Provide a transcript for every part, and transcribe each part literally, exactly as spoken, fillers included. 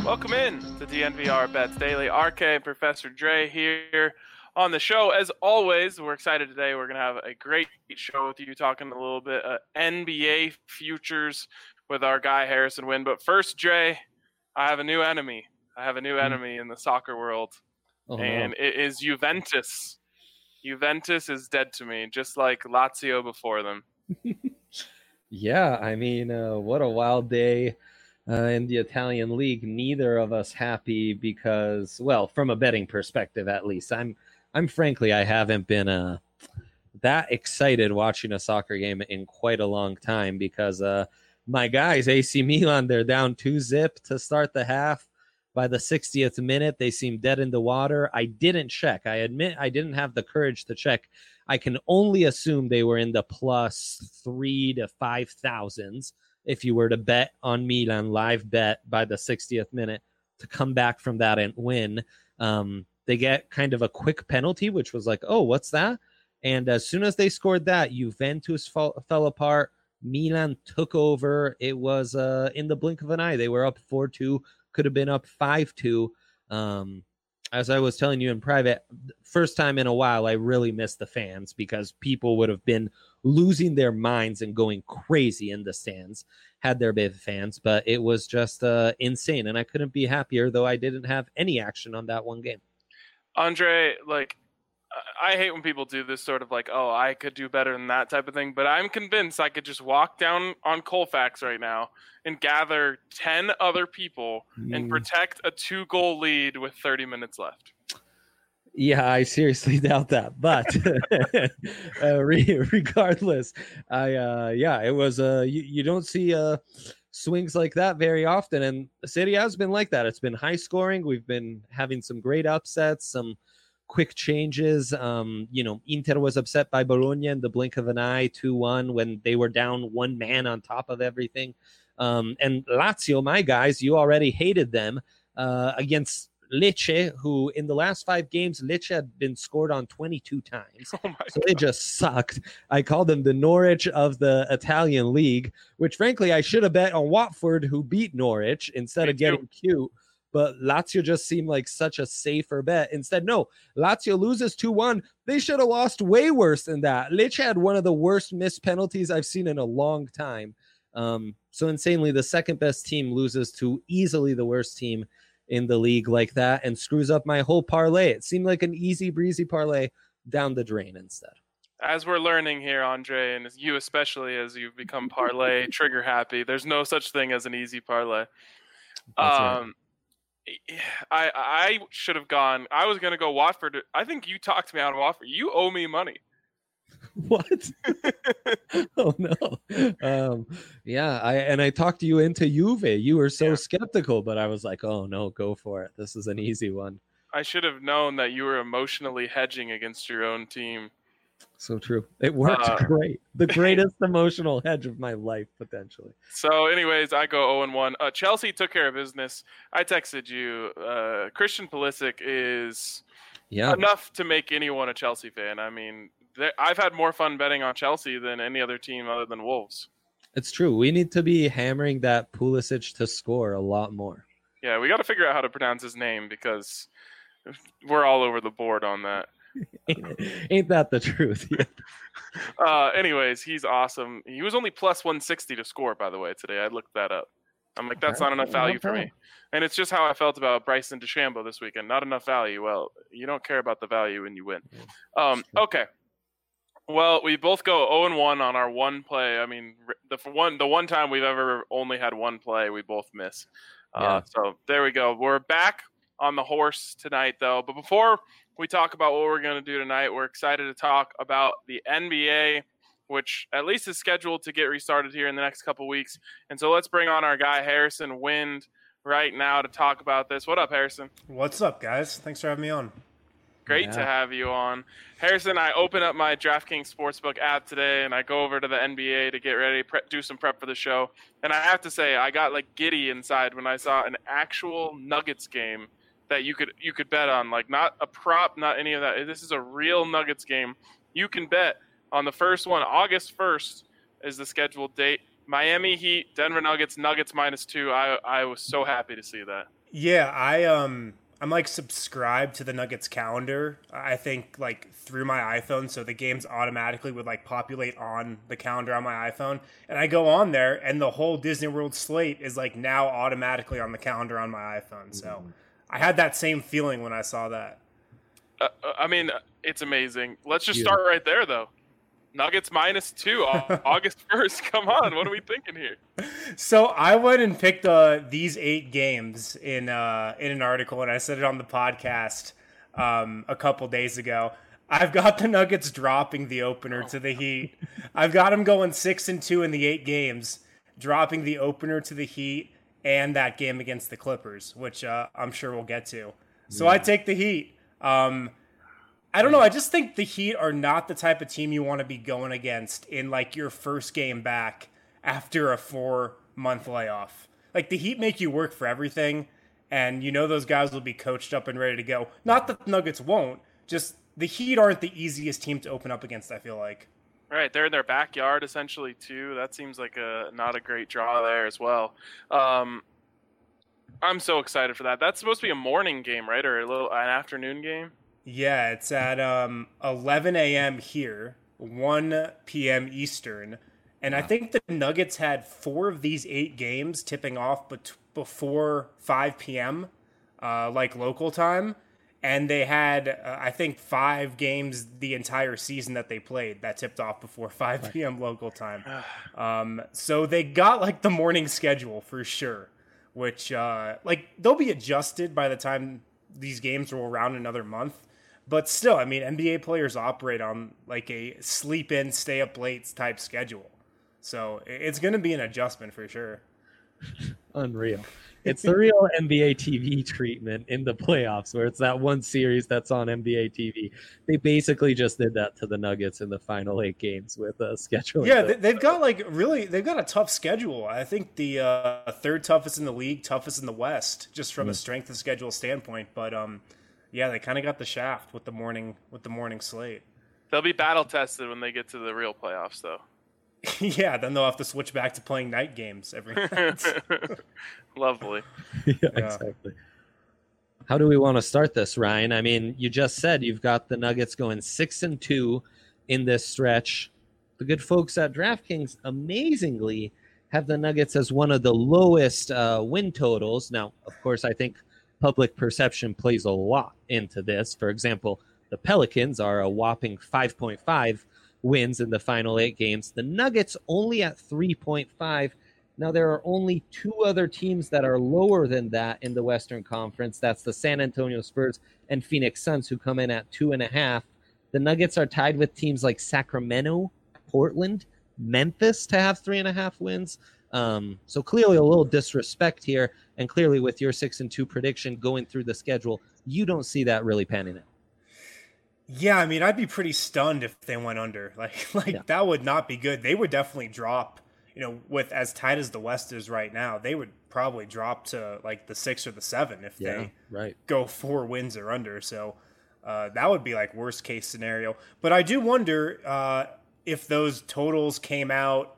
Welcome in to D N V R Bets Daily. R K and Professor Dre here on the show. As always, we're excited today. We're going to have a great show with you, talking a little bit of N B A futures with our guy Harrison Wind. But first, Dre, I have a new enemy. I have a new enemy in the soccer world, oh, and no. it is Juventus. Juventus is dead to me, just like Lazio before them. Yeah, I mean, uh, what a wild day uh, in the Italian league. Neither of us happy because, well, from a betting perspective, at least, I'm, I'm frankly, I haven't been uh, that excited watching a soccer game in quite a long time because uh, my guys, A C Milan, they're down two zip to start the half. By the sixtieth minute, they seem dead in the water. I didn't check. I admit I didn't have the courage to check. I can only assume they were in the plus three to five thousands if you were to bet on Milan, live bet by the sixtieth minute to come back from that and win. Um, they get kind of a quick penalty, which was like, oh, what's that? And as soon as they scored that, Juventus fall, fell apart. Milan took over. It was uh, in the blink of an eye. They were up four two. Could have been up five two. Um, as I was telling you in private, first time in a while, I really miss the fans because people would have been losing their minds and going crazy in the stands had there been fans. But it was just uh, insane, and I couldn't be happier, though I didn't have any action on that one game. Andre, like, I hate when people do this sort of like, oh, I could do better than that type of thing. But I'm convinced I could just walk down on Colfax right now and gather ten other people mm. and protect a two-goal lead with thirty minutes left. Yeah, I seriously doubt that. But uh, re- regardless, I uh, yeah, it was uh, you, you don't see uh, swings like that very often. And the Serie A has been like that. It's been high scoring. We've been having some great upsets, some quick changes. Um, you know, Inter was upset by Bologna in the blink of an eye, two one, when they were down one man on top of everything. Um, and Lazio, my guys, you already hated them uh, against Lecce, who in the last five games, Lecce had been scored on twenty-two times. Oh my so God. They just sucked. I called them the Norwich of the Italian league, which frankly, I should have bet on Watford, who beat Norwich instead Me of getting too. cute. But Lazio just seemed like such a safer bet. Instead, no, Lazio loses two one. They should have lost way worse than that. Lecce had one of the worst missed penalties I've seen in a long time. Um, so insanely, the second best team loses to easily the worst team in the league like that and screws up my whole parlay. It seemed like an easy breezy parlay down the drain instead. As we're learning here, Andre, and you especially as you've become parlay trigger happy, there's no such thing as an easy parlay. That's um, right. I I should have gone. I was going to go Watford. I think you talked me out of Watford. You owe me money. What? Oh no. Um, yeah, I and I talked you into Juve. You were so yeah. skeptical, but I was like, oh no, go for it. This is an easy one. I should have known that you were emotionally hedging against your own team. So true. It worked uh, great. The greatest emotional hedge of my life, potentially. So anyways, I go oh and one. Uh, Chelsea took care of business. I texted you. Uh, Christian Pulisic is yeah. enough to make anyone a Chelsea fan. I mean, I've had more fun betting on Chelsea than any other team other than Wolves. It's true. We need to be hammering that Pulisic to score a lot more. Yeah, we got to figure out how to pronounce his name because we're all over the board on that. ain't, ain't that the truth? Yeah. Uh, anyways, he's awesome. He was only plus one sixty to score, by the way, today. I looked that up. I'm like, that's not enough value for me. And it's just how I felt about Bryson DeChambeau this weekend. Not enough value. Well, you don't care about the value when you win. Um, okay. Well, we both go oh and one on our one play. I mean, the one the one time we've ever only had one play, we both miss. Uh, yeah. So there we go. We're back on the horse tonight, though. But before we talk about what we're going to do tonight, we're excited to talk about the N B A, which at least is scheduled to get restarted here in the next couple weeks. And so let's bring on our guy, Harrison Wind, right now to talk about this. What up, Harrison? What's up, guys? Thanks for having me on. Great yeah. to have you on. Harrison, I open up my DraftKings Sportsbook app today, and I go over to the N B A to get ready, pre- do some prep for the show. And I have to say, I got like giddy inside when I saw an actual Nuggets game that you could you could bet on. Like, not a prop, not any of that. This is a real Nuggets game. You can bet on the first one. August first is the scheduled date. Miami Heat, Denver Nuggets, Nuggets minus two. I I was so happy to see that. Yeah, I um I'm like subscribed to the Nuggets calendar. I think like through my iPhone, so the games automatically would like populate on the calendar on my iPhone, and I go on there, and the whole Disney World slate is like now automatically on the calendar on my iPhone. So I had that same feeling when I saw that. Uh, I mean, it's amazing. Let's just Yeah. start right there, though. Nuggets minus two, August first. Come on, what are we thinking here? So I went and picked uh, these eight games in uh, in an article, and I said it on the podcast um, a couple days ago. I've got the Nuggets dropping the opener to the Heat. I've got them going six and two in the eight games, dropping the opener to the Heat and that game against the Clippers, which uh, I'm sure we'll get to. So yeah. I take the Heat. Um, I don't know. I just think the Heat are not the type of team you want to be going against in like your first game back after a four month layoff. Like the Heat make you work for everything, and you know those guys will be coached up and ready to go. Not that the Nuggets won't, just the Heat aren't the easiest team to open up against, I feel like. Right, they're in their backyard essentially too. That seems like a not a great draw there as well. Um, I'm so excited for that. That's supposed to be a morning game, right, or a little an afternoon game? Yeah, it's at um, eleven a.m. here, one p.m. Eastern. And I think the Nuggets had four of these eight games tipping off bet- before five p.m., uh, like local time. And they had, uh, I think, five games the entire season that they played that tipped off before five p.m. local time. Um, so they got, like, the morning schedule for sure, which, uh, like, they'll be adjusted by the time these games roll around another month. But still, I mean, N B A players operate on, like, a sleep-in, stay-up-late type schedule. So it's going to be an adjustment for sure. Unreal. It's the real N B A T V treatment in the playoffs, where it's that one series that's on N B A T V. They basically just did that to the Nuggets in the final eight games with a uh, schedule. Yeah, they, they've got like really, they've got a tough schedule. I think the uh, third toughest in the league, toughest in the West, just from mm. a strength of schedule standpoint. But um, yeah, they kind of got the shaft with the morning with the morning slate. They'll be battle tested when they get to the real playoffs, though. Yeah, then they'll have to switch back to playing night games every night. Lovely. yeah, yeah, exactly. How do we want to start this, Ryan? I mean, you just said you've got the Nuggets going six and two in this stretch. The good folks at DraftKings amazingly have the Nuggets as one of the lowest uh, win totals. Now, of course, I think public perception plays a lot into this. For example, the Pelicans are a whopping five point five wins in the final eight games. The Nuggets only at three point five. Now, there are only two other teams that are lower than that in the Western Conference. That's the San Antonio Spurs and Phoenix Suns, who come in at two and a half. The Nuggets are tied with teams like Sacramento, Portland, Memphis to have three and a half wins. Um, so clearly a little disrespect here. And clearly with your six and two prediction going through the schedule, you don't see that really panning out. Yeah, I mean, I'd be pretty stunned if they went under. Like, like yeah. that would not be good. They would definitely drop, you know, with as tight as the West is right now, they would probably drop to like the six or the seven if yeah, they right. go four wins or under. So uh, that would be like worst case scenario. But I do wonder uh, if those totals came out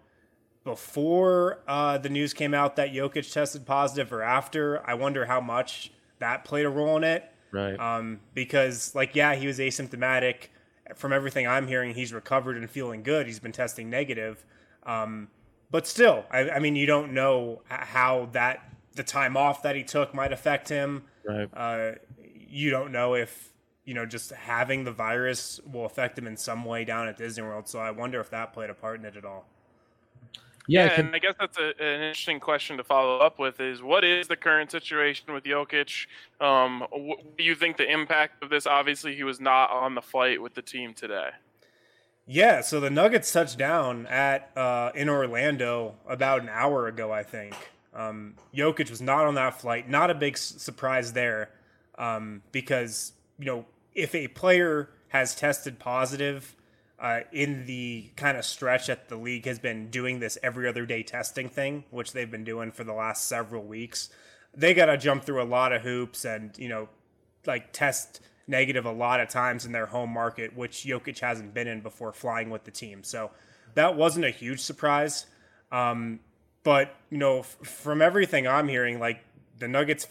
before uh, the news came out that Jokic tested positive or after. I wonder how much that played a role in it. Right. Um, because, like, yeah, he was asymptomatic. From everything I'm hearing, he's recovered and feeling good. He's been testing negative. Um, but still, I, I mean, you don't know how that the time off that he took might affect him. Right. Uh, you don't know if, you know, just having the virus will affect him in some way down at Disney World. So I wonder if that played a part in it at all. Yeah, Yeah, I can... and I guess that's a, an interesting question to follow up with is what is the current situation with Jokic? Um, what do you think the impact of this? Obviously, he was not on the flight with the team today. Yeah, so the Nuggets touched down at uh, in Orlando about an hour ago, I think. Um, Jokic was not on that flight. Not a big s- surprise there um, because, you know, if a player has tested positive Uh, in the kind of stretch that the league has been doing this every other day testing thing, which they've been doing for the last several weeks, they got to jump through a lot of hoops and, you know, like test negative a lot of times in their home market, which Jokic hasn't been in before flying with the team. So that wasn't a huge surprise. Um, but, you know, f- from everything I'm hearing, like the Nuggets feel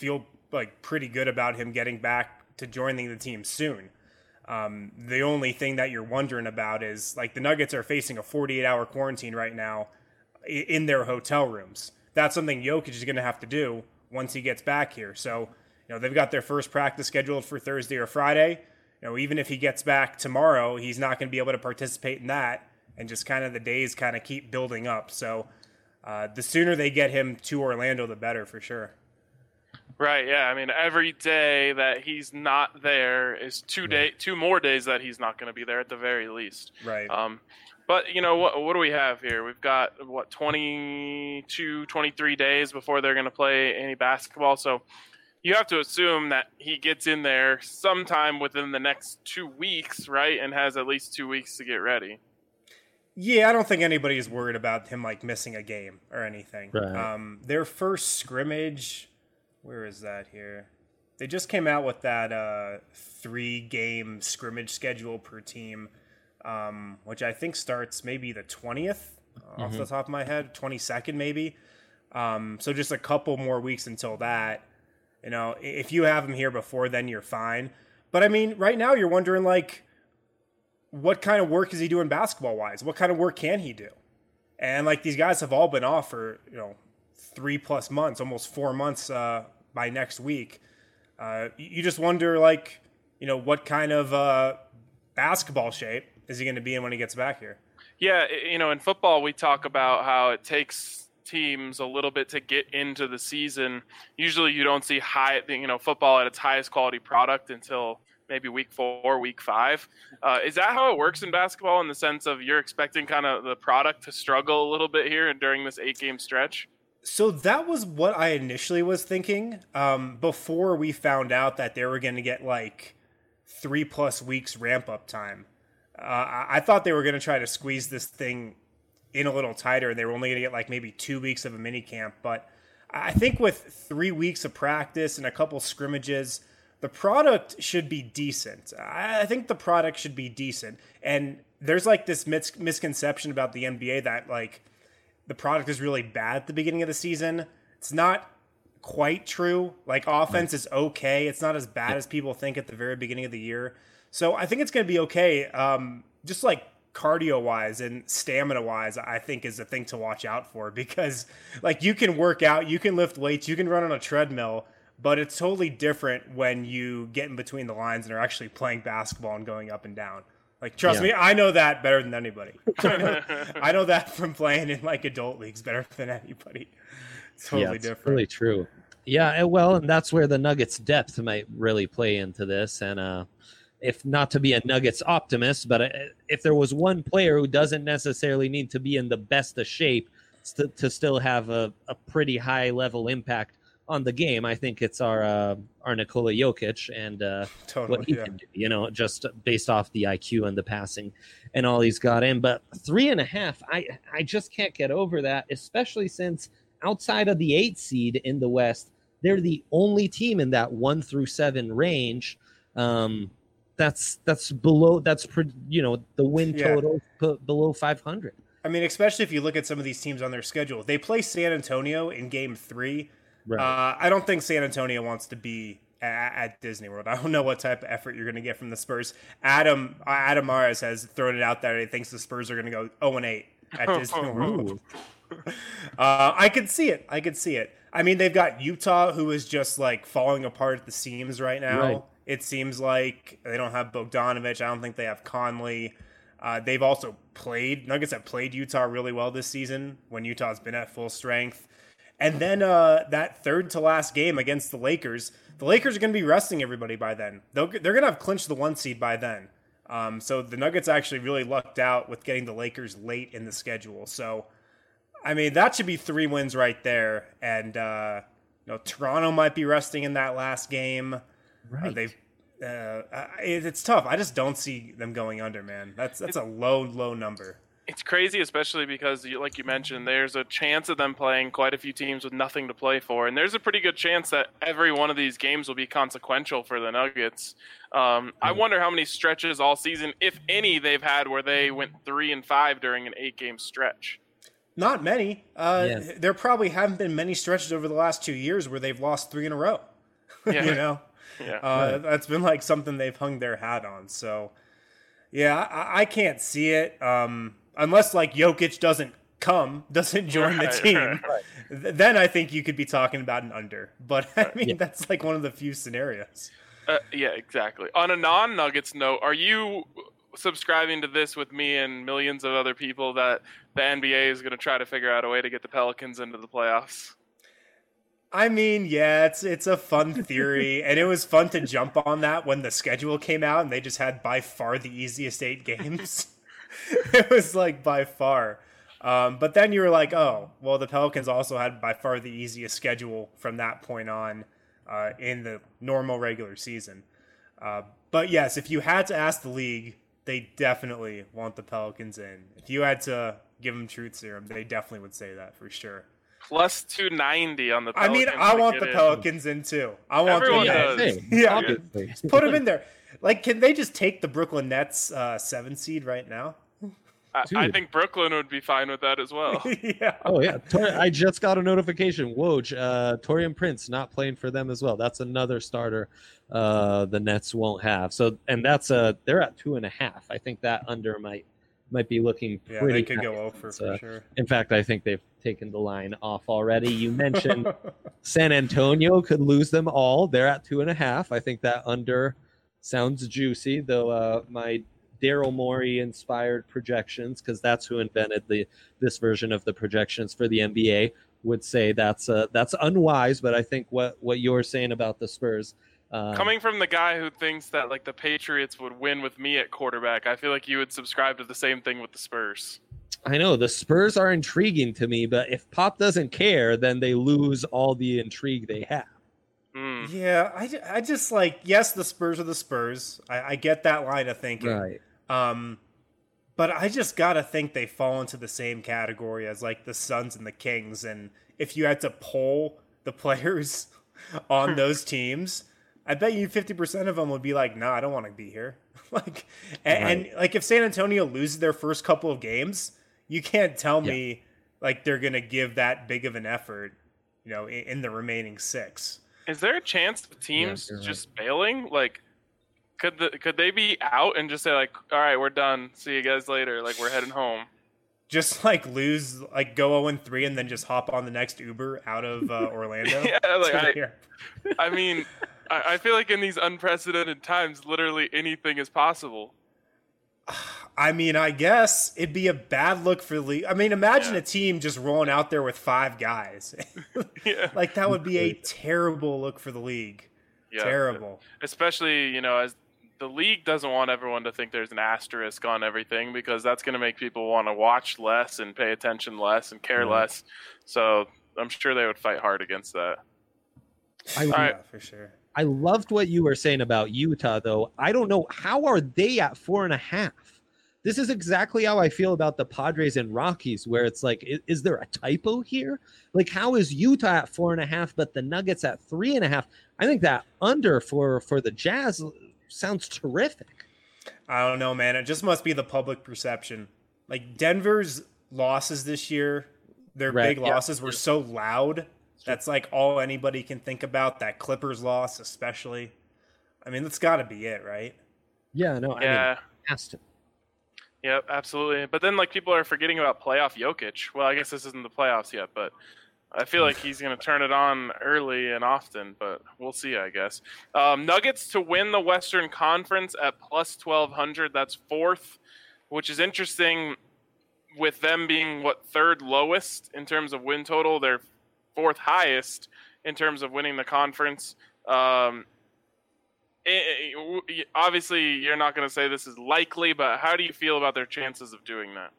like pretty good about him getting back to joining the team soon. Um, the only thing that you're wondering about is like the Nuggets are facing a forty-eight hour quarantine right now in their hotel rooms. That's something Jokic is going to have to do once he gets back here. So, you know, they've got their first practice scheduled for Thursday or Friday. You know, even if he gets back tomorrow, he's not going to be able to participate in that, and just kind of the days kind of keep building up. So uh, the sooner they get him to Orlando, the better for sure. Right. Yeah. I mean, every day that he's not there is two day, two more days that he's not going to be there at the very least. Right. Um, but you know what? What do we have here? We've got what twenty-two, twenty-three days before they're going to play any basketball. So you have to assume that he gets in there sometime within the next two weeks, right? And has at least two weeks to get ready. Yeah, I don't think anybody is worried about him like missing a game or anything. Right. Um, their first scrimmage. Where is that here? They just came out with that uh, three-game scrimmage schedule per team, um, which I think starts maybe the twentieth, mm-hmm. off the top of my head, twenty-second maybe. Um, so just a couple more weeks until that. You know, if you have him here before then, you're fine. But, I mean, right now you're wondering, like, what kind of work is he doing basketball-wise? What kind of work can he do? And, like, these guys have all been off for, you know, three plus months, almost four months uh, by next week. Uh, you just wonder, like, you know, what kind of uh, basketball shape is he going to be in when he gets back here? Yeah, you know, in football, we talk about how it takes teams a little bit to get into the season. Usually you don't see high, you know, football at its highest quality product until maybe week four, week five. Uh, is that how it works in basketball in the sense of you're expecting kind of the product to struggle a little bit here during this eight-game stretch? So that was what I initially was thinking um, before we found out that they were going to get like three plus weeks ramp up time. Uh, I thought they were going to try to squeeze this thing in a little tighter, and they were only going to get like maybe two weeks of a mini camp. But I think with three weeks of practice and a couple scrimmages, the product should be decent. I think the product should be decent. And there's like this mis- misconception about the N B A that like, the product is really bad at the beginning of the season. It's not quite true. Like, offense is okay. It's not as bad as people think at the very beginning of the year. So I think it's going to be okay. Um, just like cardio-wise and stamina-wise, I think is a thing to watch out for, because like you can work out, you can lift weights, you can run on a treadmill, but it's totally different when you get in between the lines and are actually playing basketball and going up and down. Like, trust yeah. me, I know that better than anybody. I know that from playing in, like, adult leagues better than anybody. It's totally yeah, it's different. Really true. Yeah, well, and that's where the Nuggets' depth might really play into this. And uh, if not to be a Nuggets optimist, but if there was one player who doesn't necessarily need to be in the best of shape to, to still have a, a pretty high-level impact on the game, I think it's our uh, our Nikola Jokic and uh, totally, what he yeah. can do, you know, just based off the I Q and the passing and all he's got in. But three and a half, I, I just can't get over that, especially since outside of the eight seed in the West, they're the only team in that one through seven range. Um, that's that's below, that's, you know, the win yeah. total put below five hundred. I mean, especially if you look at some of these teams on their schedule. They play San Antonio in game three. Right. Uh, I don't think San Antonio wants to be at, at Disney World. I don't know what type of effort you're going to get from the Spurs. Adam Adam Mares has thrown it out there. He thinks the Spurs are going to go oh and eight at Disney World. uh, I could see it. I could see it. I mean, they've got Utah, who is just like falling apart at the seams right now. Right. It seems like they don't have Bogdanovich. I don't think they have Conley. Uh, they've also played, Nuggets have played Utah really well this season when Utah's been at full strength. And then uh, that third to last game against the Lakers, the Lakers are going to be resting everybody by then. They'll, they're going to have clinched the one seed by then. Um, so the Nuggets actually really lucked out with getting the Lakers late in the schedule. So, I mean, that should be three wins right there. And, uh, you know, Toronto might be resting in that last game. Right. Uh, they've, uh, it, it's tough. I just don't see them going under, man. That's that's a low, low number. It's crazy, especially because, like you mentioned, there's a chance of them playing quite a few teams with nothing to play for. And there's a pretty good chance that every one of these games will be consequential for the Nuggets. Um, I wonder how many stretches all season, if any, they've had where they went three and five during an eight-game stretch. Not many. Uh, yeah. There probably haven't been many stretches over the last two years where they've lost three in a row. Yeah. you know, Yeah. uh, Right. that's been like something they've hung their hat on. So, yeah, I, I can't see it um, unless like Jokic doesn't come, doesn't join Right, the team. right. Th- Then I think you could be talking about an under. But I mean, Yeah. that's like one of the few scenarios. Uh, yeah, exactly. On a non-Nuggets note, are you subscribing to this with me and millions of other people that the N B A is going to try to figure out a way to get the Pelicans into the playoffs? I mean, yeah, it's it's a fun theory, and it was fun to jump on that when the schedule came out and they just had by far the easiest eight games. It was like by far. Um, but then you were like, oh, well, the Pelicans also had by far the easiest schedule from that point on uh, in the normal regular season. Uh, but yes, if you had to ask the league, they definitely want the Pelicans in. If you had to give them truth serum, they definitely would say that for sure. Plus two ninety on the I Pelicans. mean, I to want get the in. Pelicans in too. I want Everyone them does. in. Same, Yeah. obviously. Put them in there. Like, can they just take the Brooklyn Nets uh, seven seed right now? I, I Dude. think Brooklyn would be fine with that as well. Yeah. Oh yeah, Tor- I just got a notification. Woj, uh, Torian Prince not playing for them as well. That's another starter uh, the Nets won't have. So, and that's uh they're at two and a half. I think that under might might be looking Yeah, pretty. they could nice. go over It's, for uh, sure. In fact, I think they've taken the line off already. You mentioned San Antonio could lose them all. They're at two and a half. I think that under sounds juicy, though. Uh, my Daryl Morey inspired projections, because that's who invented the this version of the projections for the N B A, would say that's uh, that's unwise. But I think what what you're saying about the Spurs, um, Coming from the guy who thinks that like the Patriots would win with me at quarterback, I feel like you would subscribe to the same thing with the Spurs. I know the Spurs are intriguing to me, but if Pop doesn't care, then they lose all the intrigue they have. Mm. Yeah, I, ju- I just like, yes, the Spurs are the Spurs. I, I get that line of thinking. Right. Um, but I just gotta think they fall into the same category as like the Suns and the Kings. And if you had to poll the players on those teams, I bet you fifty percent of them would be like, "Nah, I don't want to be here." like, and, Right. and like if San Antonio loses their first couple of games, you can't tell me like they're gonna give that big of an effort, you know, in, in the remaining six. Is there a chance of teams you're right. just bailing? Like, could the could they be out and just say like, "All right, we're done. See you guys later. Like, we're heading home." Just like lose, like go zero and three, and then just hop on the next Uber out of uh, Orlando. Yeah, like, to I- here. I mean, I, I feel like in these unprecedented times, literally anything is possible. I mean, I guess it'd be a bad look for the league. I mean, imagine Yeah. a team just rolling out there with five guys. Yeah, Like that would be a terrible look for the league. yeah. Terrible. Especially, you know, as the league doesn't want everyone to think there's an asterisk on everything, because that's going to make people want to watch less and pay attention less and care Mhm. less. So I'm sure they would fight hard against that. I, All right. Yeah, for sure. I loved what you were saying about Utah, though. I don't know, how are they at four and a half? This is exactly how I feel about the Padres and Rockies, where it's like, is, is there a typo here? Like, how is Utah at four and a half, but the Nuggets at three and a half? I think that under for for the Jazz sounds terrific. I don't know, man. It just must be the public perception. Like Denver's losses this year, their Right, big yeah. losses were so loud. That's like all anybody can think about. That Clippers loss, especially. I mean, that's got to be it, right? Yeah, no, I Yeah. mean, it has to. Yep, absolutely. But then, like, people are forgetting about playoff Jokic. Well, I guess this isn't the playoffs yet, but I feel like he's going to turn it on early and often, but we'll see, I guess. Um, Nuggets to win the Western Conference at plus twelve hundred. That's fourth, which is interesting with them being, what, third lowest in terms of win total. They're fourth highest in terms of winning the conference. Um, it, it, obviously, you're not going to say this is likely, but how do you feel about their chances of doing that?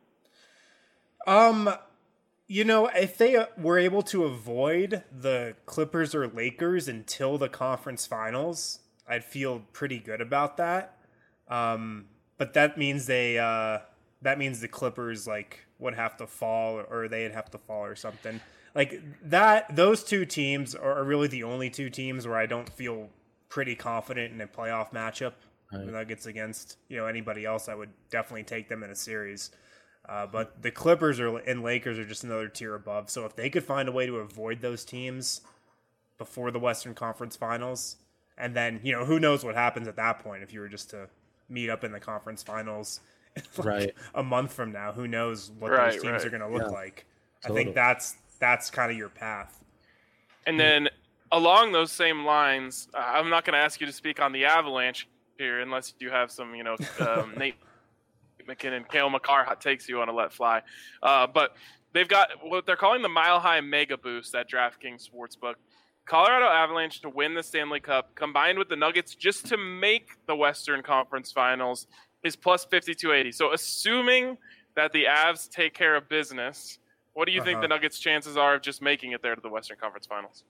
Um, you know, if they uh, were able to avoid the Clippers or Lakers until the conference finals, I'd feel pretty good about that. Um, but that means they, uh, that means the Clippers like would have to fall, or they'd have to fall or something like that. Those two teams are really the only two teams where I don't feel pretty confident in a playoff matchup. Right. The Nuggets against, you know, anybody else, I would definitely take them in a series. Uh, but the Clippers are, and Lakers are just another tier above. So if they could find a way to avoid those teams, before the Western Conference Finals. And then, you know, who knows what happens at that point if you were just to meet up in the conference finals like right. a month from now. Who knows what right, those teams right. are going to look yeah. like. Totally. I think that's that's kind of your path. And then along those same lines, uh, I'm not going to ask you to speak on the Avalanche here unless you have some, you know, um, Nate McKinnon, Cale Makar hot takes you want to let fly. Uh, but they've got what they're calling the Mile High Mega Boost at DraftKings Sportsbook. Colorado Avalanche to win the Stanley Cup combined with the Nuggets just to make the Western Conference Finals is plus fifty-two eighty. So assuming that the Avs take care of business, what do you uh-huh. think the Nuggets' chances are of just making it there to the Western Conference Finals?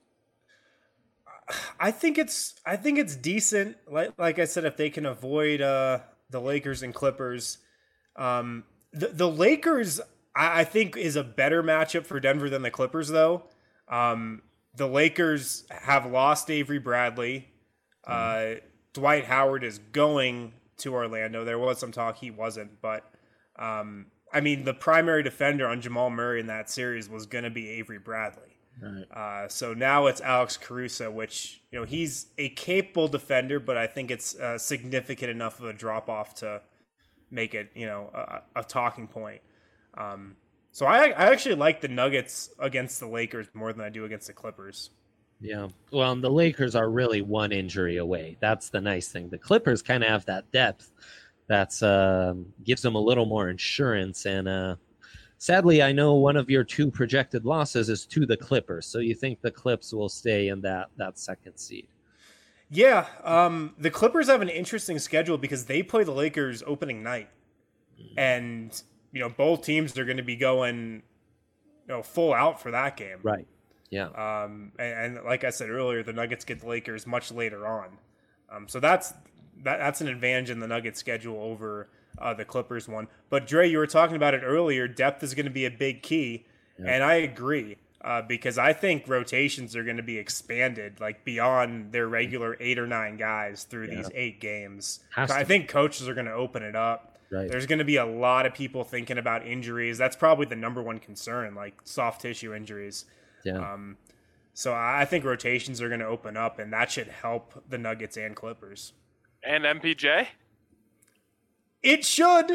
I think it's I think it's decent. Like like I said, if they can avoid uh, the Lakers and Clippers, um, the the Lakers I, I think is a better matchup for Denver than the Clippers, though. Um, The Lakers have lost Avery Bradley. Uh, Dwight Howard is going to Orlando. There was some talk he wasn't, but um, I mean, the primary defender on Jamal Murray in that series was going to be Avery Bradley. Right. Uh, so now it's Alex Caruso, which, you know, he's a capable defender, but I think it's uh, significant enough of a drop off to make it, you know, a, a talking point. Um, So I I actually like the Nuggets against the Lakers more than I do against the Clippers. Yeah. Well, the Lakers are really one injury away. That's the nice thing. The Clippers kind of have that depth that's uh, gives them a little more insurance. And uh, sadly, I know one of your two projected losses is to the Clippers. So you think the Clips will stay in that, that second seed? Yeah. Um, the Clippers have an interesting schedule because they play the Lakers opening night. Mm. And you know, both teams are going to be going, you know, full out for that game. Right. Yeah. Um, and, and like I said earlier, the Nuggets get the Lakers much later on. Um, so that's that, that's an advantage in the Nuggets schedule over uh, the Clippers one. But Dre, you were talking about it earlier. Depth is going to be a big key. Yeah. And I agree uh, because I think rotations are going to be expanded like beyond their regular eight or nine guys through yeah. these eight games. I think coaches are going to open it up. Right. There's going to be a lot of people thinking about injuries. That's probably the number one concern, like soft tissue injuries. Yeah. Um, so I think rotations are going to open up, and that should help the Nuggets and Clippers. And M P J? It should.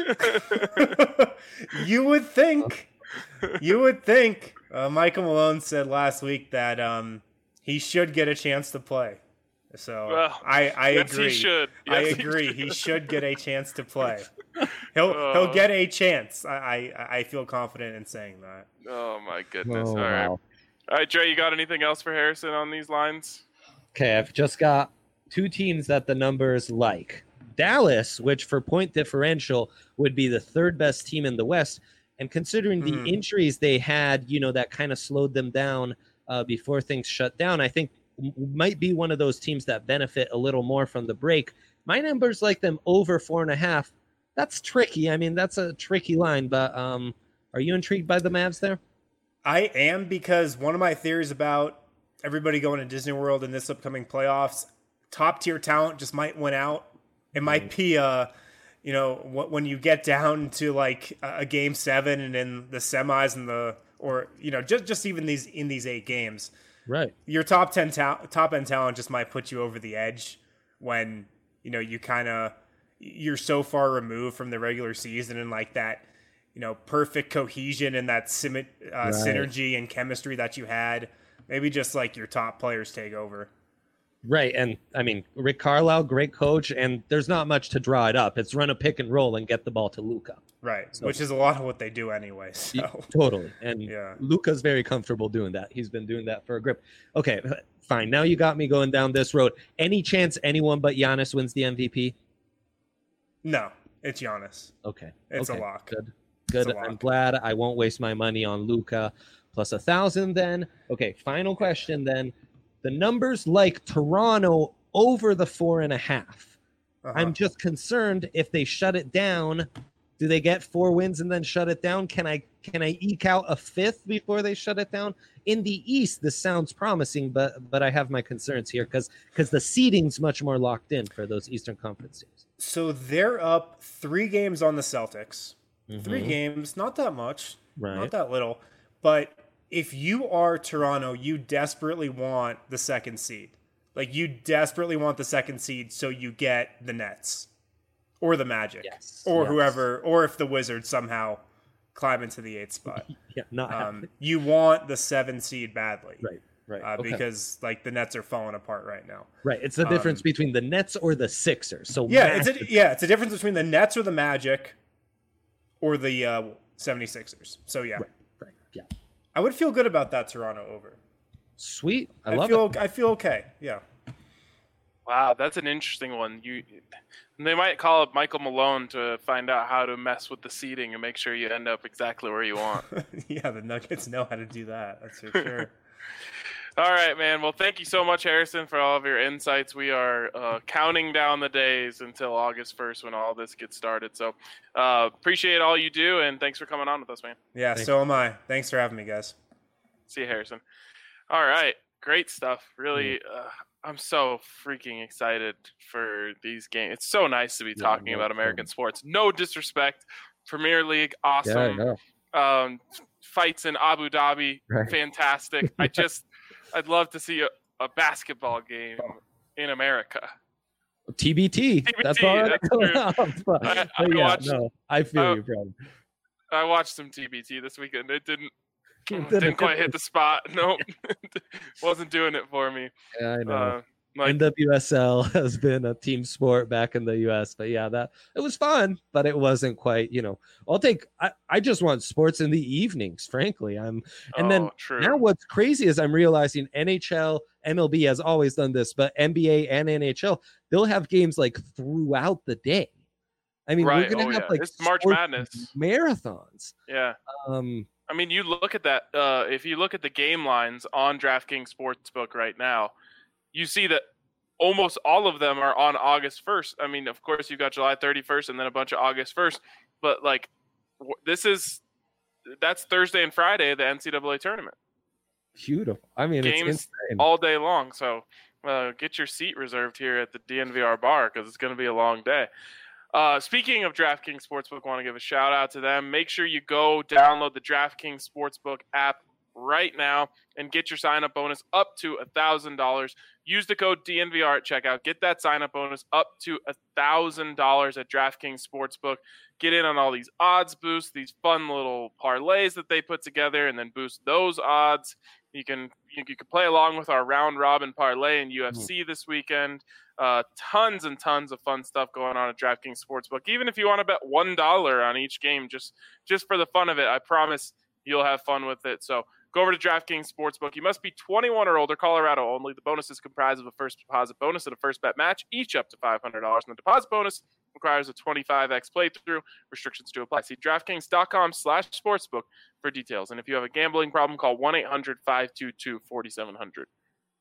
You would think. You would think. Uh, Michael Malone said last week that um, he should get a chance to play. So well, I, I yes, agree. He should. Yes, I he agree. should. He should get a chance to play. He'll oh. he'll get a chance. I, I I feel confident in saying that. Oh my goodness! Oh, All right, wow. all right, Dre. You got anything else for Harrison on these lines? Okay, I've just got two teams that the numbers like. Dallas, which for point differential would be the third best team in the West, and considering the Mm. injuries they had, you know, that kind of slowed them down uh, before things shut down. I think might be one of those teams that benefit a little more from the break. My numbers like them over four and a half. That's tricky. I mean, that's a tricky line, but um, are you intrigued by the Mavs there? I am, because one of my theories about everybody going to Disney World in this upcoming playoffs, top tier talent just might win out. It might be, uh, you know, when you get down to like a game seven and in the semis and the, or, you know, just, just even these in these eight games, right? Your top ten ta- top end talent just might put you over the edge when, you know, you kind of, you're so far removed from the regular season and like that, you know, perfect cohesion and that sim- uh, right. synergy and chemistry that you had. Maybe just like your top players take over. Right. And I mean, Rick Carlisle, great coach, and there's not much to draw it up. It's run a pick and roll and get the ball to Luka. Right. So, which is a lot of what they do anyway. So. Totally. And yeah. Luka's very comfortable doing that. He's been doing that for a grip. Okay, fine. Now you got me going down this road. Any chance anyone but Giannis wins the M V P? No, it's Giannis. Okay. It's okay. a lock. Good. Good. I'm glad I won't waste my money on Luka. Plus a thousand then. Okay, final question then. The numbers like Toronto over the four and a half. Uh-huh. I'm just concerned if they shut it down, do they get four wins and then shut it down? Can I can I eke out a fifth before they shut it down? In the East, this sounds promising, but but I have my concerns here because because the seeding's much more locked in for those Eastern Conference teams. So they're up three games on the Celtics. Mm-hmm. Three games, not that much, right. not that little, but if you are Toronto, you desperately want the second seed. Like, you desperately want the second seed so you get the Nets or the Magic yes, or yes. whoever, or if the Wizards somehow climb into the eighth spot. yeah, not um, you want the seven seed badly. Right, right. Uh, okay. Because, like, the Nets are falling apart right now. Right. It's the difference um, between the Nets or the Sixers. So yeah, it's a, yeah, it's a difference between the Nets or the Magic or the uh, seventy-sixers. So, yeah. Right, right, yeah. I would feel good about that Toronto over. Sweet. I, I love feel, it. I feel okay. Yeah. Wow, that's an interesting one. You, they might call up Michael Malone to find out how to mess with the seeding and make sure you end up exactly where you want. Yeah, the Nuggets know how to do that. That's for sure. All right, man. Well, thank you so much, Harrison, for all of your insights. We are uh, counting down the days until August first when all this gets started. So uh, appreciate all you do, and thanks for coming on with us, man. Yeah, Thanks. so am I. Thanks for having me, guys. See you, Harrison. All right. Great stuff. Really, uh, I'm so freaking excited for these games. It's so nice to be Yeah, talking no, about American um, sports. No disrespect. Premier League, awesome. Yeah, yeah. Um, fights in Abu Dhabi, Right. fantastic. I just, I'd love to see a, a basketball game in America. T B T. T B T, That's all right. that's true. but, I- I but yeah, watched- no, I feel I- you, bro. I watched some T B T this weekend. It didn't, Didn't didn't quite hit the spot. Nope, wasn't doing it for me. Yeah, I know. Uh, like, N W S L has been a team sport back in the U S, but yeah, that it was fun, but it wasn't quite, you know, I'll take, I, I just want sports in the evenings, frankly. I'm, and oh, then true. now what's crazy is I'm realizing N H L, M L B has always done this, but N B A and N H L, they'll have games like throughout the day. I mean, Right. we're going to Oh, have yeah. like It's March sports Madness. marathons. Yeah. Um, I mean, you look at that. Uh, if you look at the game lines on DraftKings Sportsbook right now, you see that almost all of them are on August first. I mean, of course, you've got July thirty-first and then a bunch of August first. But, like, w- this is – that's Thursday and Friday of the N C double A tournament. beautiful. I mean, Games it's insane. all day long. So uh, get your seat reserved here at the D N V R bar because it's going to be a long day. Uh, speaking of DraftKings Sportsbook, want to give a shout out to them. Make sure you go download the DraftKings Sportsbook app right now and get your sign up bonus up to one thousand dollars. Use the code D N V R at checkout. Get that sign up bonus up to one thousand dollars at DraftKings Sportsbook. Get in on all these odds boosts, these fun little parlays that they put together, and then boost those odds. You can you, you can play along with our round robin parlay in U F C this weekend. Uh, tons and tons of fun stuff going on at DraftKings Sportsbook. Even if you want to bet one dollar on each game, just just for the fun of it, I promise you'll have fun with it. So go over to DraftKings Sportsbook. You must be twenty-one or older, Colorado only. The bonus is comprised of a first deposit bonus and a first bet match, each up to five hundred dollars. And the deposit bonus requires a twenty-five x playthrough. Restrictions to apply. See DraftKings.com slash sportsbook for details. And if you have a gambling problem, call one eight hundred five two two four seven zero zero.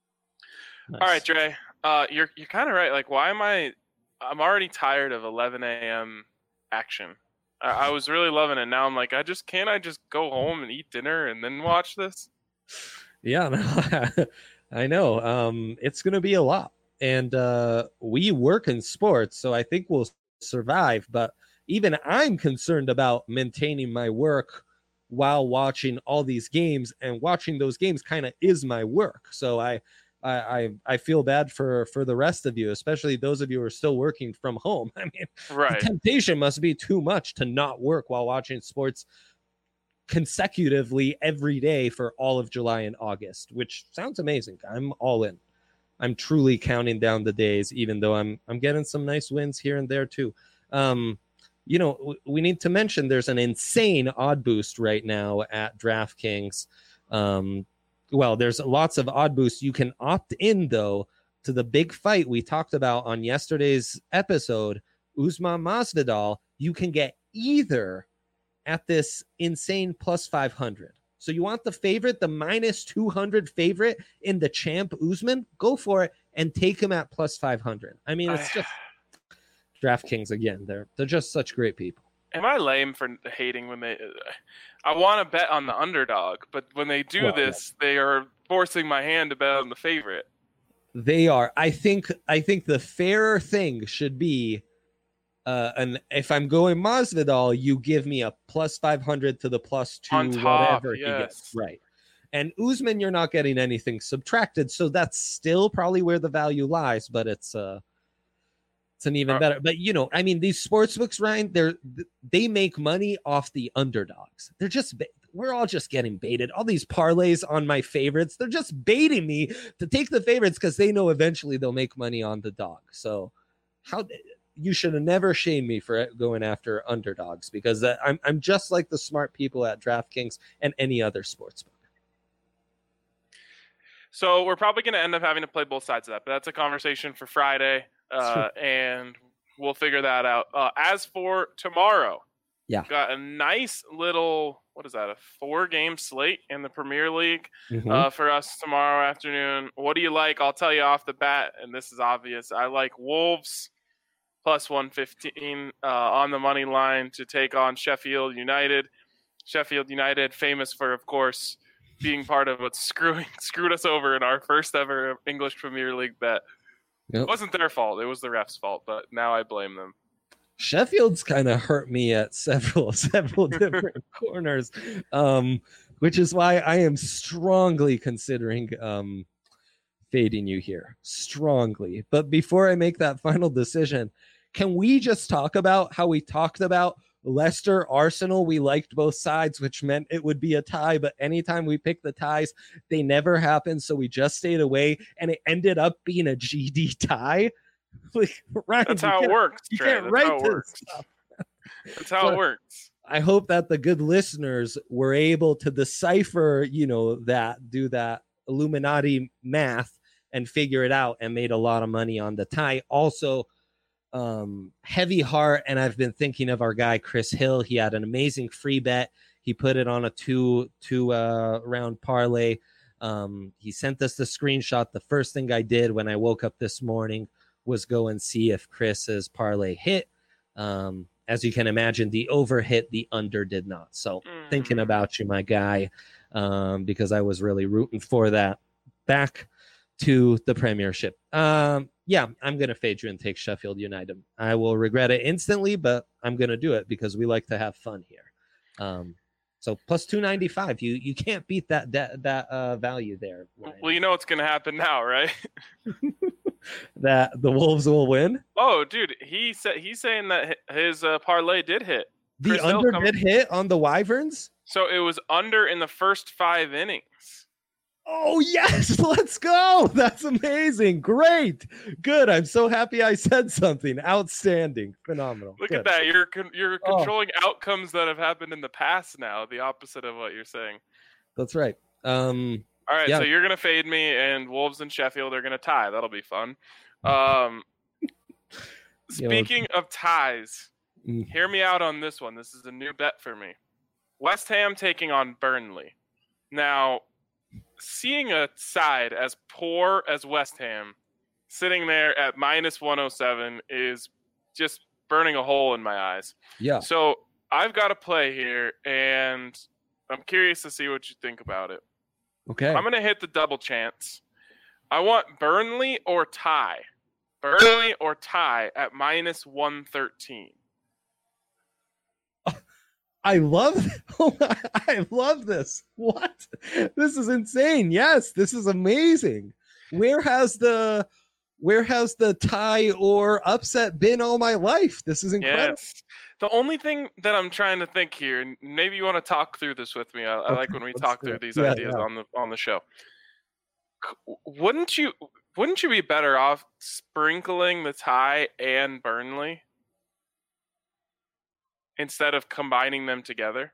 Nice. All right, Dre. Uh, you're you're kind of right. Like, why am I? I'm already tired of eleven a.m. action. I, I was really loving it. Now I'm like, I just can't. I just go home and eat dinner and then watch this. Yeah, no, I know. Um, it's going to be a lot. And uh, we work in sports, so I think we'll survive. But even I'm concerned about maintaining my work while watching all these games. And watching those games kind of is my work. So I, I, I, I feel bad for, for the rest of you, especially those of you who are still working from home. I mean, Right. the temptation must be too much to not work while watching sports consecutively every day for all of July and August, which sounds amazing. I'm all in. I'm truly counting down the days, even though I'm I'm getting some nice wins here and there too. Um, you know, w- we need to mention there's an insane odd boost right now at DraftKings. Um, well, there's lots of odd boosts. You can opt in though to the big fight we talked about on yesterday's episode, Usman Masvidal. You can get either at this insane plus five hundred. So you want the favorite, the minus two hundred favorite in the champ Usman? Go for it and take him at plus five hundred. I mean, it's just DraftKings again. They're they're just such great people. Am I lame for hating when they? I want to bet on the underdog, but when they do Well, this, they are forcing my hand to bet on the favorite. They are. I think I think the fairer thing should be Uh, and if I'm going Masvidal, you give me a plus five hundred to the plus two, On top, whatever he yes. gets. Right. And Usman, you're not getting anything subtracted, so that's still probably where the value lies, but it's uh it's an even better. But you know, I mean, these sports books, Ryan, they're they make money off the underdogs. They're just we're all just getting baited. All these parlays on my favorites, they're just baiting me to take the favorites because they know eventually they'll make money on the dog. So how you should have never shamed me for going after underdogs, because I'm I'm just like the smart people at DraftKings and any other sports book. So we're probably going to end up having to play both sides of that, but that's a conversation for Friday, uh, and we'll figure that out. Uh, as for tomorrow, yeah, got a nice little, what is that, a four-game slate in the Premier League mm-hmm. uh, for us tomorrow afternoon. What do you like? I'll tell you off the bat, and this is obvious. I like Wolves plus one fifteen uh, on the money line to take on Sheffield United. Sheffield United, famous for, of course, being part of what screwing screwed us over in our first ever English Premier League bet. Yep. It wasn't their fault. It was the ref's fault, but now I blame them. Sheffield's kind of hurt me at several, several different corners, um, which is why I am strongly considering um, fading you here. Strongly. But before I make that final decision, can we just talk about how we talked about Leicester, Arsenal? We liked both sides, which meant it would be a tie, but anytime we picked the ties, they never happened, so we just stayed away, and it ended up being a G D tie. Like, Ryan, that's how it works. You Trey. can't that's write how it this works. stuff. That's how so it works. I hope that the good listeners were able to decipher, you know, that, do that Illuminati math and figure it out, and made a lot of money on the tie. Also, um heavy heart, and I've been thinking of our guy Chris Hill. He had an amazing free bet. He put it on a two two uh round parlay. Um he sent us the screenshot. The first thing I did when I woke up this morning was go and see if Chris's parlay hit. Um as you can imagine, the over hit, the under did not. So mm. thinking about you, my guy, um because I was really rooting for that. Back to the Premiership. Um Yeah, I'm going to fade you and take Sheffield United. I will regret it instantly, but I'm going to do it because we like to have fun here. Um, so plus two ninety-five, you you can't beat that that, that uh, value there, Ryan. Well, you know what's going to happen now, right? That the Wolves will win? Oh, dude, he said he's saying that his uh, parlay did hit. The Chris under come- did hit on the Wyverns? So it was under in the first five innings. Oh, yes, let's go. That's amazing. Great. Good. I'm so happy I said something. Outstanding. Phenomenal. Look Good. at that. You're con- you're controlling oh. outcomes that have happened in the past now, the opposite of what you're saying. That's right. Um, All right, yeah. so you're going to fade me, and Wolves and Sheffield are going to tie. That'll be fun. Um, speaking know, of ties, mm. hear me out on this one. This is a new bet for me. West Ham taking on Burnley. Now, seeing a side as poor as West Ham sitting there at minus one oh seven is just burning a hole in my eyes. Yeah. So I've got a play here, and I'm curious to see what you think about it. Okay. I'm going to hit the double chance. I want Burnley or tie. Burnley or tie at minus one thirteen. I love I love this. What? This is insane. Yes, this is amazing. Where has the where has the tie or upset been all my life? This is incredible. Yes. The only thing that I'm trying to think here, and maybe you want to talk through this with me. I, I like when we talk through these yeah, ideas yeah. on the on the show. Wouldn't you wouldn't you be better off sprinkling the tie and Burnley instead of combining them together?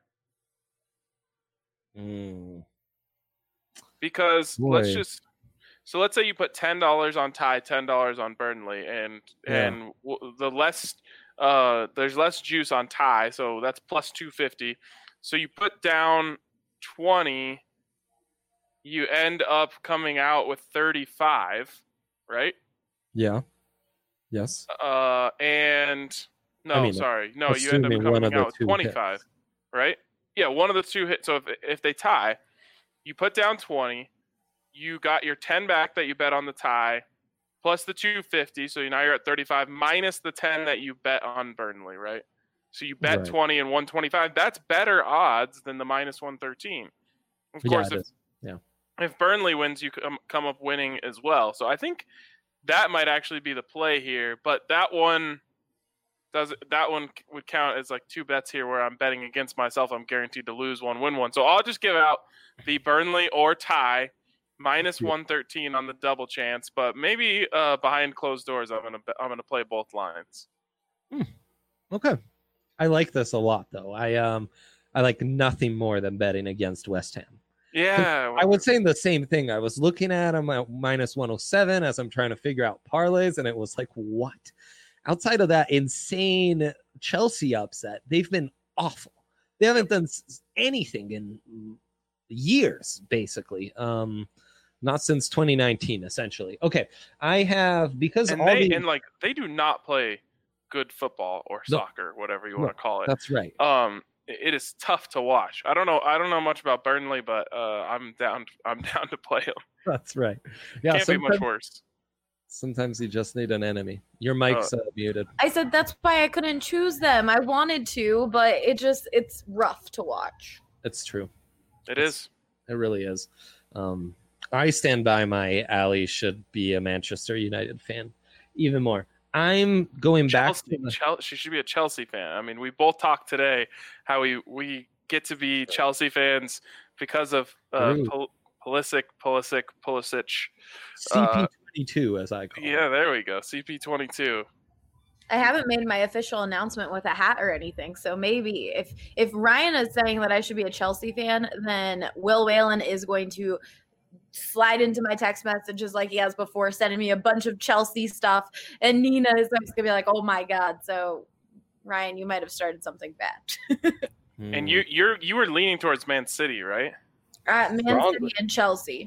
Mm. Because Boy. let's just so let's say you put ten dollars on tie, ten dollars on Burnley, and yeah. and the less uh there's less juice on tie, so that's plus two fifty. So you put down twenty, you end up coming out with thirty-five, right? Yeah. Yes. Uh and no, I mean, sorry. No, you end up coming out with twenty-five, hits. Right? Yeah, one of the two hits. So if if they tie, you put down twenty, you got your ten back that you bet on the tie, plus the two fifty, so now you're at thirty-five, minus the ten that you bet on Burnley, right? So you bet right. twenty and one twenty-five. That's better odds than the minus one thirteen. Of yeah, course, it if, is. Yeah. If Burnley wins, you come come up winning as well. So I think that might actually be the play here. But that one does that one would count as like two bets here, where I'm betting against myself. I'm guaranteed to lose one, win one. So I'll just give out the Burnley or tie minus one thirteen on the double chance. But maybe uh, behind closed doors, I'm gonna I'm gonna play both lines. Hmm. Okay, I like this a lot though. I um I like nothing more than betting against West Ham. Yeah, I was saying the same thing. I was looking at them at minus one oh seven as I'm trying to figure out parlays, and it was like, what? Outside of that insane Chelsea upset, they've been awful. They haven't done anything in years, basically. Um, not since twenty nineteen, essentially. Okay, I have because and all they the, and like they do not play good football or No. soccer, whatever you No, want to call it. That's right. Um, it is tough to watch. I don't know. I don't know much about Burnley, but uh, I'm down. I'm down to play them. That's right. Yeah, Can't be much worse. Sometimes you just need an enemy. Your mic's uh, muted. I said that's why I couldn't choose them. I wanted to, but it just it's rough to watch. It's true. It it's, is. It really is. Um, I stand by my Ali should be a Manchester United fan, even more. I'm going Chelsea, back to the... Chelsea. She should be a Chelsea fan. I mean, we both talked today how we, we get to be Chelsea fans because of uh, Pul- Pulisic, Pulisic, Pulisic. C P twenty-two, uh, as I call yeah, it. Yeah, there we go. C P twenty-two. I haven't made my official announcement with a hat or anything, so maybe if if Ryan is saying that I should be a Chelsea fan, then Will Whalen is going to slide into my text messages like he has before, sending me a bunch of Chelsea stuff, and Nina is going to be like, "Oh my god!" So, Ryan, you might have started something bad. And you you're you were leaning towards Man City, right? Uh, Man Strong. City and Chelsea.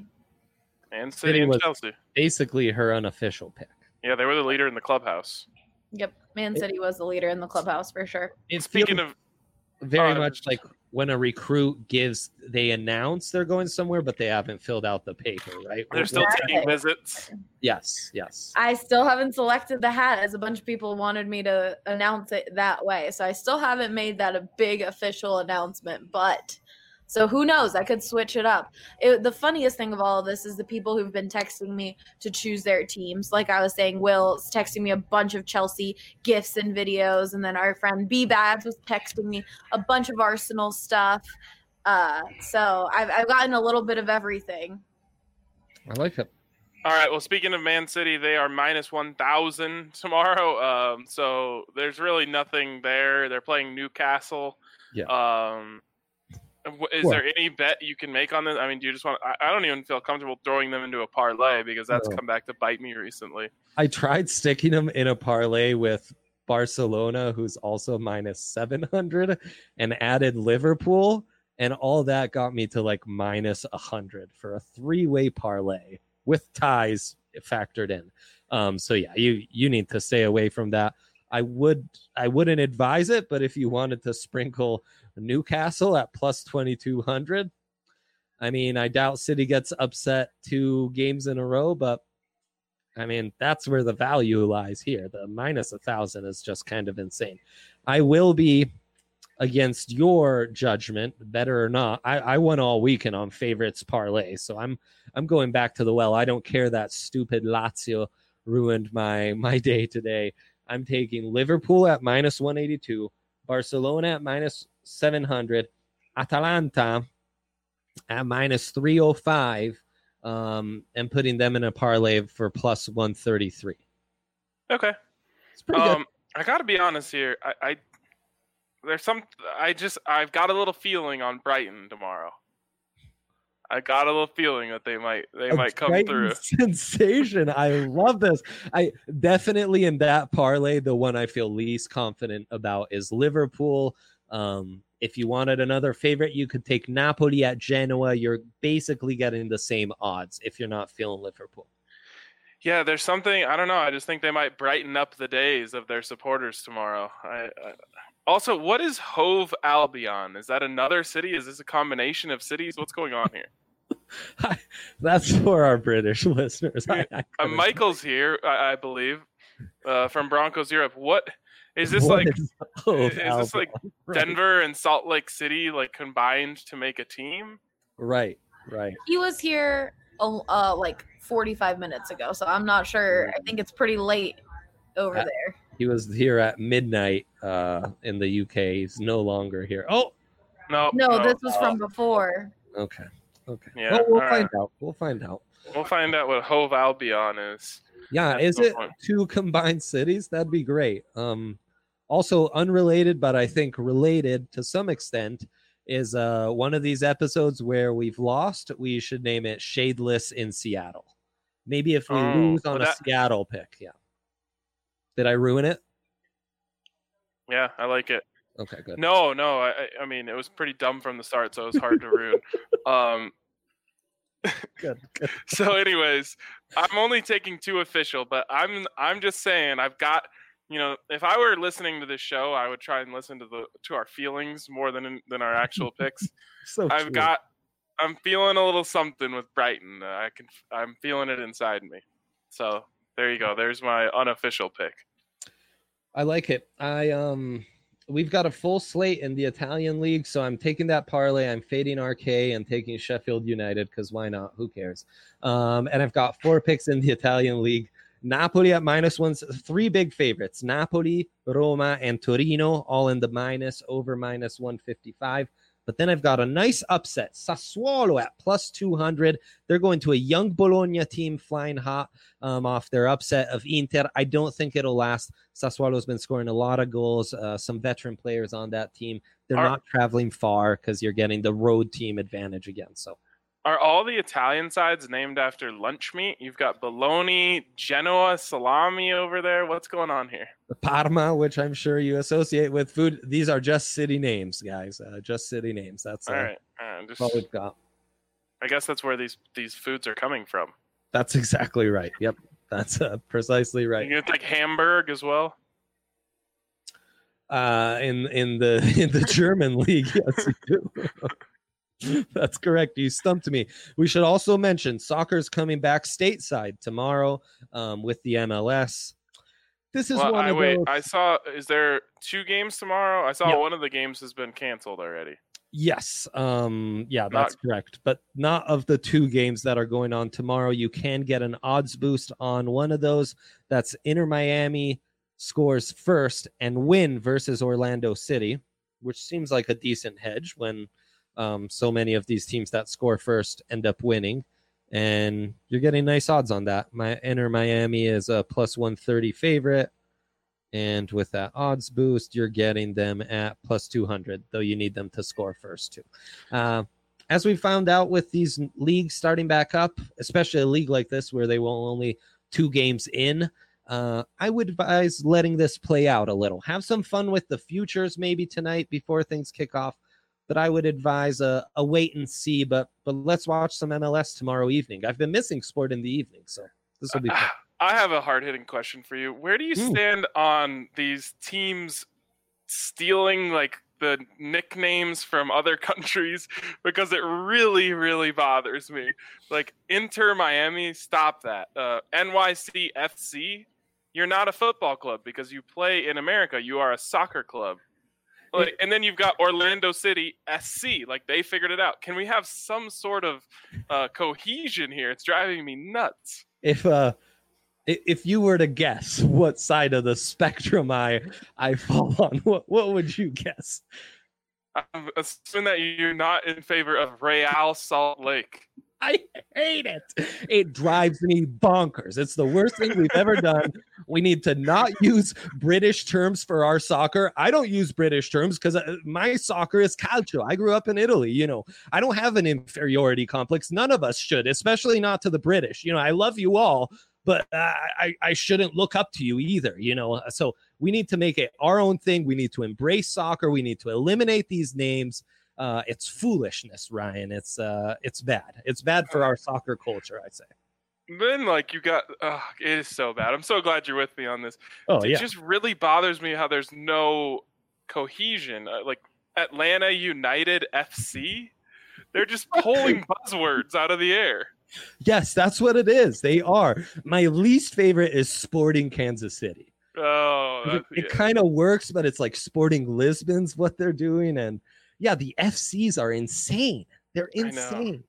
Man City and Chelsea. Basically, her unofficial pick. Yeah, they were the leader in the clubhouse. Yep, Man City was the leader in the clubhouse for sure. It's Speaking of very uh, much like when a recruit gives, they announce they're going somewhere, but they haven't filled out the paper, right? They're still Exactly. taking visits. Yes, yes. I still haven't selected the hat, as a bunch of people wanted me to announce it that way. So I still haven't made that a big official announcement, but so who knows? I could switch it up. It, the funniest thing of all of this is the people who've been texting me to choose their teams. Like I was saying, Will's texting me a bunch of Chelsea gifs and videos, and then our friend B-Babs was texting me a bunch of Arsenal stuff. Uh, so I've, I've gotten a little bit of everything. I like it. All right. Well, speaking of Man City, they are minus one thousand tomorrow. Um, so there's really nothing there. They're playing Newcastle. Yeah. Um, is Sure. there any bet you can make on this? I mean, do you just want? I, I don't even feel comfortable throwing them into a parlay because that's No. come back to bite me recently. I tried sticking them in a parlay with Barcelona, who's also minus seven hundred, and added Liverpool, and all that got me to like minus one hundred for a three-way parlay with ties factored in. Um, so yeah, you you need to stay away from that. I would I wouldn't advise it, but if you wanted to sprinkle Newcastle at plus twenty-two hundred, I mean, I doubt City gets upset two games in a row, but I mean, that's where the value lies here. The minus a thousand is just kind of insane. I will be against your judgment, better or not. I, I won all weekend on favorites parlay, so I'm I'm going back to the well. I don't care that stupid Lazio ruined my my day today. I'm taking Liverpool at minus one eighty-two, Barcelona at minus seven hundred, Atalanta at minus three oh five, um, and putting them in a parlay for plus one thirty-three. Okay. It's pretty Um, good. I got to be honest here. I, I there's some. I just I've got a little feeling on Brighton tomorrow. I got a little feeling that they might they A might come Brighton through. Sensation. I love this. I definitely in that parlay, the one I feel least confident about is Liverpool. Um, if you wanted another favorite, you could take Napoli at Genoa. You're basically getting the same odds if you're not feeling Liverpool. Yeah, there's something I don't know. I just think they might brighten up the days of their supporters tomorrow. I, I, also, what is Hove Albion? Is that another city? Is this a combination of cities? What's going on here? That's for our British listeners. I, I uh, Michael's here, I, I believe, uh, from Broncos Europe. What is this What like? is Hove Is this like Albion? Right. Denver and Salt Lake City like combined to make a team? Right. Right. He was here uh, like forty-five minutes ago, so I'm not sure. I think it's pretty late over At, there. He was here at midnight uh, in the U K. He's no longer here. Oh, no, no, no. this was uh, from before. Okay, okay. Yeah, well, we'll find right. out. We'll find out. We'll find out what Hove Albion is. Yeah, That's is it point. two combined cities? That'd be great. Um, also unrelated, but I think related to some extent, is uh, one of these episodes where we've lost. We should name it Shadeless in Seattle. Maybe if we oh, lose on well, a that... Seattle pick, yeah. Did I ruin it? Yeah, I like it. Okay, good. No, no, I, I mean, it was pretty dumb from the start, so it was hard to ruin. Um, good, good. So, anyways, I'm only taking two official, but I'm I'm just saying I've got, you know, if I were listening to this show, I would try and listen to the to our feelings more than than our actual picks. so I've true. got, I'm feeling a little something with Brighton. I can, I'm feeling it inside me. So there you go. There's my unofficial pick. I like it. I um, we've got a full slate in the Italian league, so I'm taking that parlay. I'm fading R K and taking Sheffield United because why not? Who cares? Um, and I've got four picks in the Italian league. Napoli at minus one. Three big favorites: Napoli, Roma, and Torino, all in the minus over minus one fifty-five. But then I've got a nice upset. Sassuolo at plus two hundred. They're going to a young Bologna team flying hot um, off their upset of Inter. I don't think it'll last. Sassuolo's been scoring a lot of goals. Uh, some veteran players on that team. They're are, not traveling far because you're getting the road team advantage again. So, are all the Italian sides named after lunch meat? You've got bologna, Genoa, salami over there. What's going on here? The Parma, which I'm sure you associate with food. These are just city names, guys. Uh, just city names. That's uh, all right. All right. Just, all we've got. I guess that's where these these foods are coming from. That's exactly right. Yep, that's uh, precisely right. You take Hamburg as well. Uh, in in the in the German league, yes, you do. That's correct. You stumped me. We should also mention soccer's coming back stateside tomorrow um, with the M L S. This is well, one I, of wait, those. I saw. Is there two games tomorrow? I saw yep. one of the games has been canceled already. Yes. Um, yeah, that's not... correct. But not of the two games that are going on tomorrow. You can get an odds boost on one of those. That's Inter Miami scores first and win versus Orlando City, which seems like a decent hedge when um, so many of these teams that score first end up winning. And you're getting nice odds on that. My Inter Miami is a plus one thirty favorite. And with that odds boost, you're getting them at plus two hundred, though you need them to score first, too. Uh, as we found out with these leagues starting back up, especially a league like this where they will only two games in, uh, I would advise letting this play out a little. Have some fun with the futures maybe tonight before things kick off. But I would advise a, a wait and see. But but let's watch some M L S tomorrow evening. I've been missing sport in the evening, so this will be fun. I have a hard-hitting question for you. Where do you stand mm. on these teams stealing like the nicknames from other countries? Because it really, really bothers me. Like Inter Miami, stop that. Uh, N Y C F C, you're not a football club because you play in America. You are a soccer club. Like, and then you've got Orlando City S C. Like they figured it out. Can we have some sort of uh, cohesion here? It's driving me nuts. If uh. If you were to guess what side of the spectrum I I fall on, what what would you guess? I'm assuming that you're not in favor of Real Salt Lake. I hate it. It drives me bonkers. It's the worst thing we've ever done. We need to not use British terms for our soccer. I don't use British terms because my soccer is calcio. I grew up in Italy. You know, I don't have an inferiority complex. None of us should, especially not to the British. You know, I love you all, but uh, I, I shouldn't look up to you either, you know. So we need to make it our own thing. We need to embrace soccer. We need to eliminate these names. Uh, it's foolishness, Ryan. It's uh, it's bad. It's bad for our soccer culture, I say. Then, like, you got, uh, it is so bad. I'm so glad you're with me on this. Oh, it yeah. just really bothers me how there's no cohesion. Uh, like, Atlanta United F C, they're just pulling buzzwords out of the air. Yes, that's what it is. They are. My least favorite is Sporting Kansas City. Oh, it, it yeah. kind of works, but it's like Sporting Lisbon's what they're doing. And yeah, the F Cs are insane. They're insane.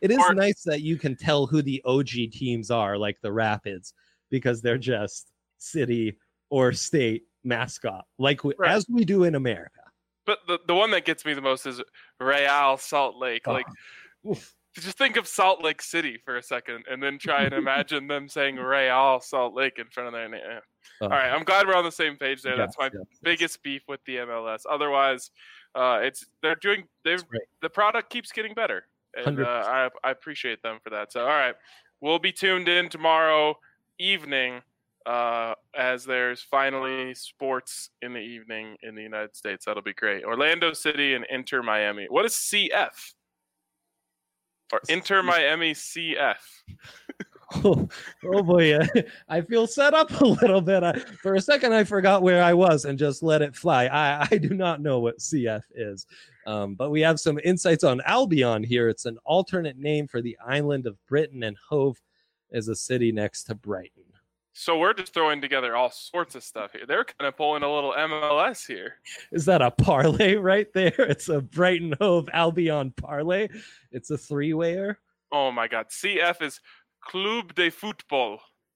it is Or- nice that you can tell who the O G teams are, like the Rapids, because they're just city or state mascot, like we, Right. as we do in America. But the, the one that gets me the most is Real Salt Lake. Like, Oh. just think of Salt Lake City for a second, and then try and imagine them saying Real Salt Lake in front of their name. Oh. All right, I'm glad we're on the same page there. That's Yes, my yes, yes. biggest beef with the M L S. Otherwise, uh, it's they're doing they're That's right. the product keeps getting better, and uh, I I appreciate them for that. So all right, we'll be tuned in tomorrow evening uh, as there's finally sports in the evening in the United States. That'll be great. Orlando City and Inter Miami. What is C F? Or Inter Miami C F? Oh, oh boy, uh, I feel set up a little bit. I, for a second, I forgot where I was and just let it fly. I, I do not know what C F is, um, but we have some insights on Albion here. It's an alternate name for the island of Britain, and Hove is a city next to Brighton. So we're just throwing together all sorts of stuff here. They're kind of pulling a little M L S here. Is that a parlay right there? It's a Brighton Hove Albion parlay. It's a three-wayer. Oh my God. C F is Club de Football.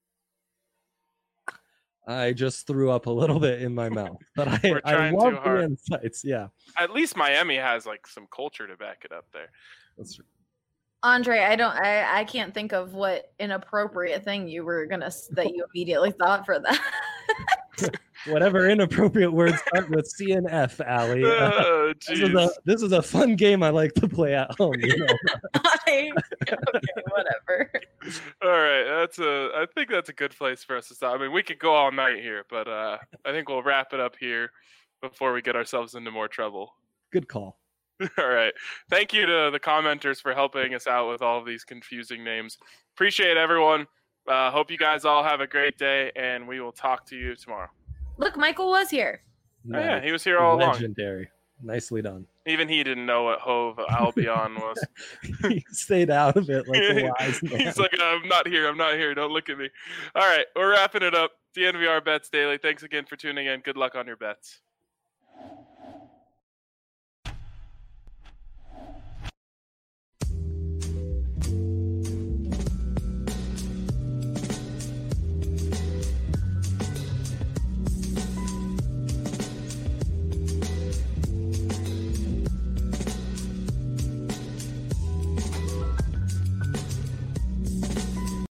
I just threw up a little bit in my mouth, but I, We're I trying love too hard. the insights. Yeah, At least Miami has like some culture to back it up there. that's Andre, I don't, I, I can't think of what inappropriate thing you were gonna s- that you immediately thought for that. whatever inappropriate words start with C and F, Allie. Uh, Oh, this, is a, jeez. this is a fun game I like to play at home. You know? I, okay, whatever. All right, that's a. I think that's a good place for us to stop. I mean, we could go all night here, but uh, I think we'll wrap it up here before we get ourselves into more trouble. Good call. All right. Thank you to the commenters for helping us out with all of these confusing names. Appreciate everyone. Uh, hope you guys all have a great day, and we will talk to you tomorrow. Look, Michael was here. Oh, yeah, he was here all along. Legendary. Nicely done. Even he didn't know what Hove Albion was. He stayed out of it like a wise man. He's like, I'm not here. I'm not here. Don't look at me. All right. We're wrapping it up. D N V R Bets Daily. Thanks again for tuning in. Good luck on your bets.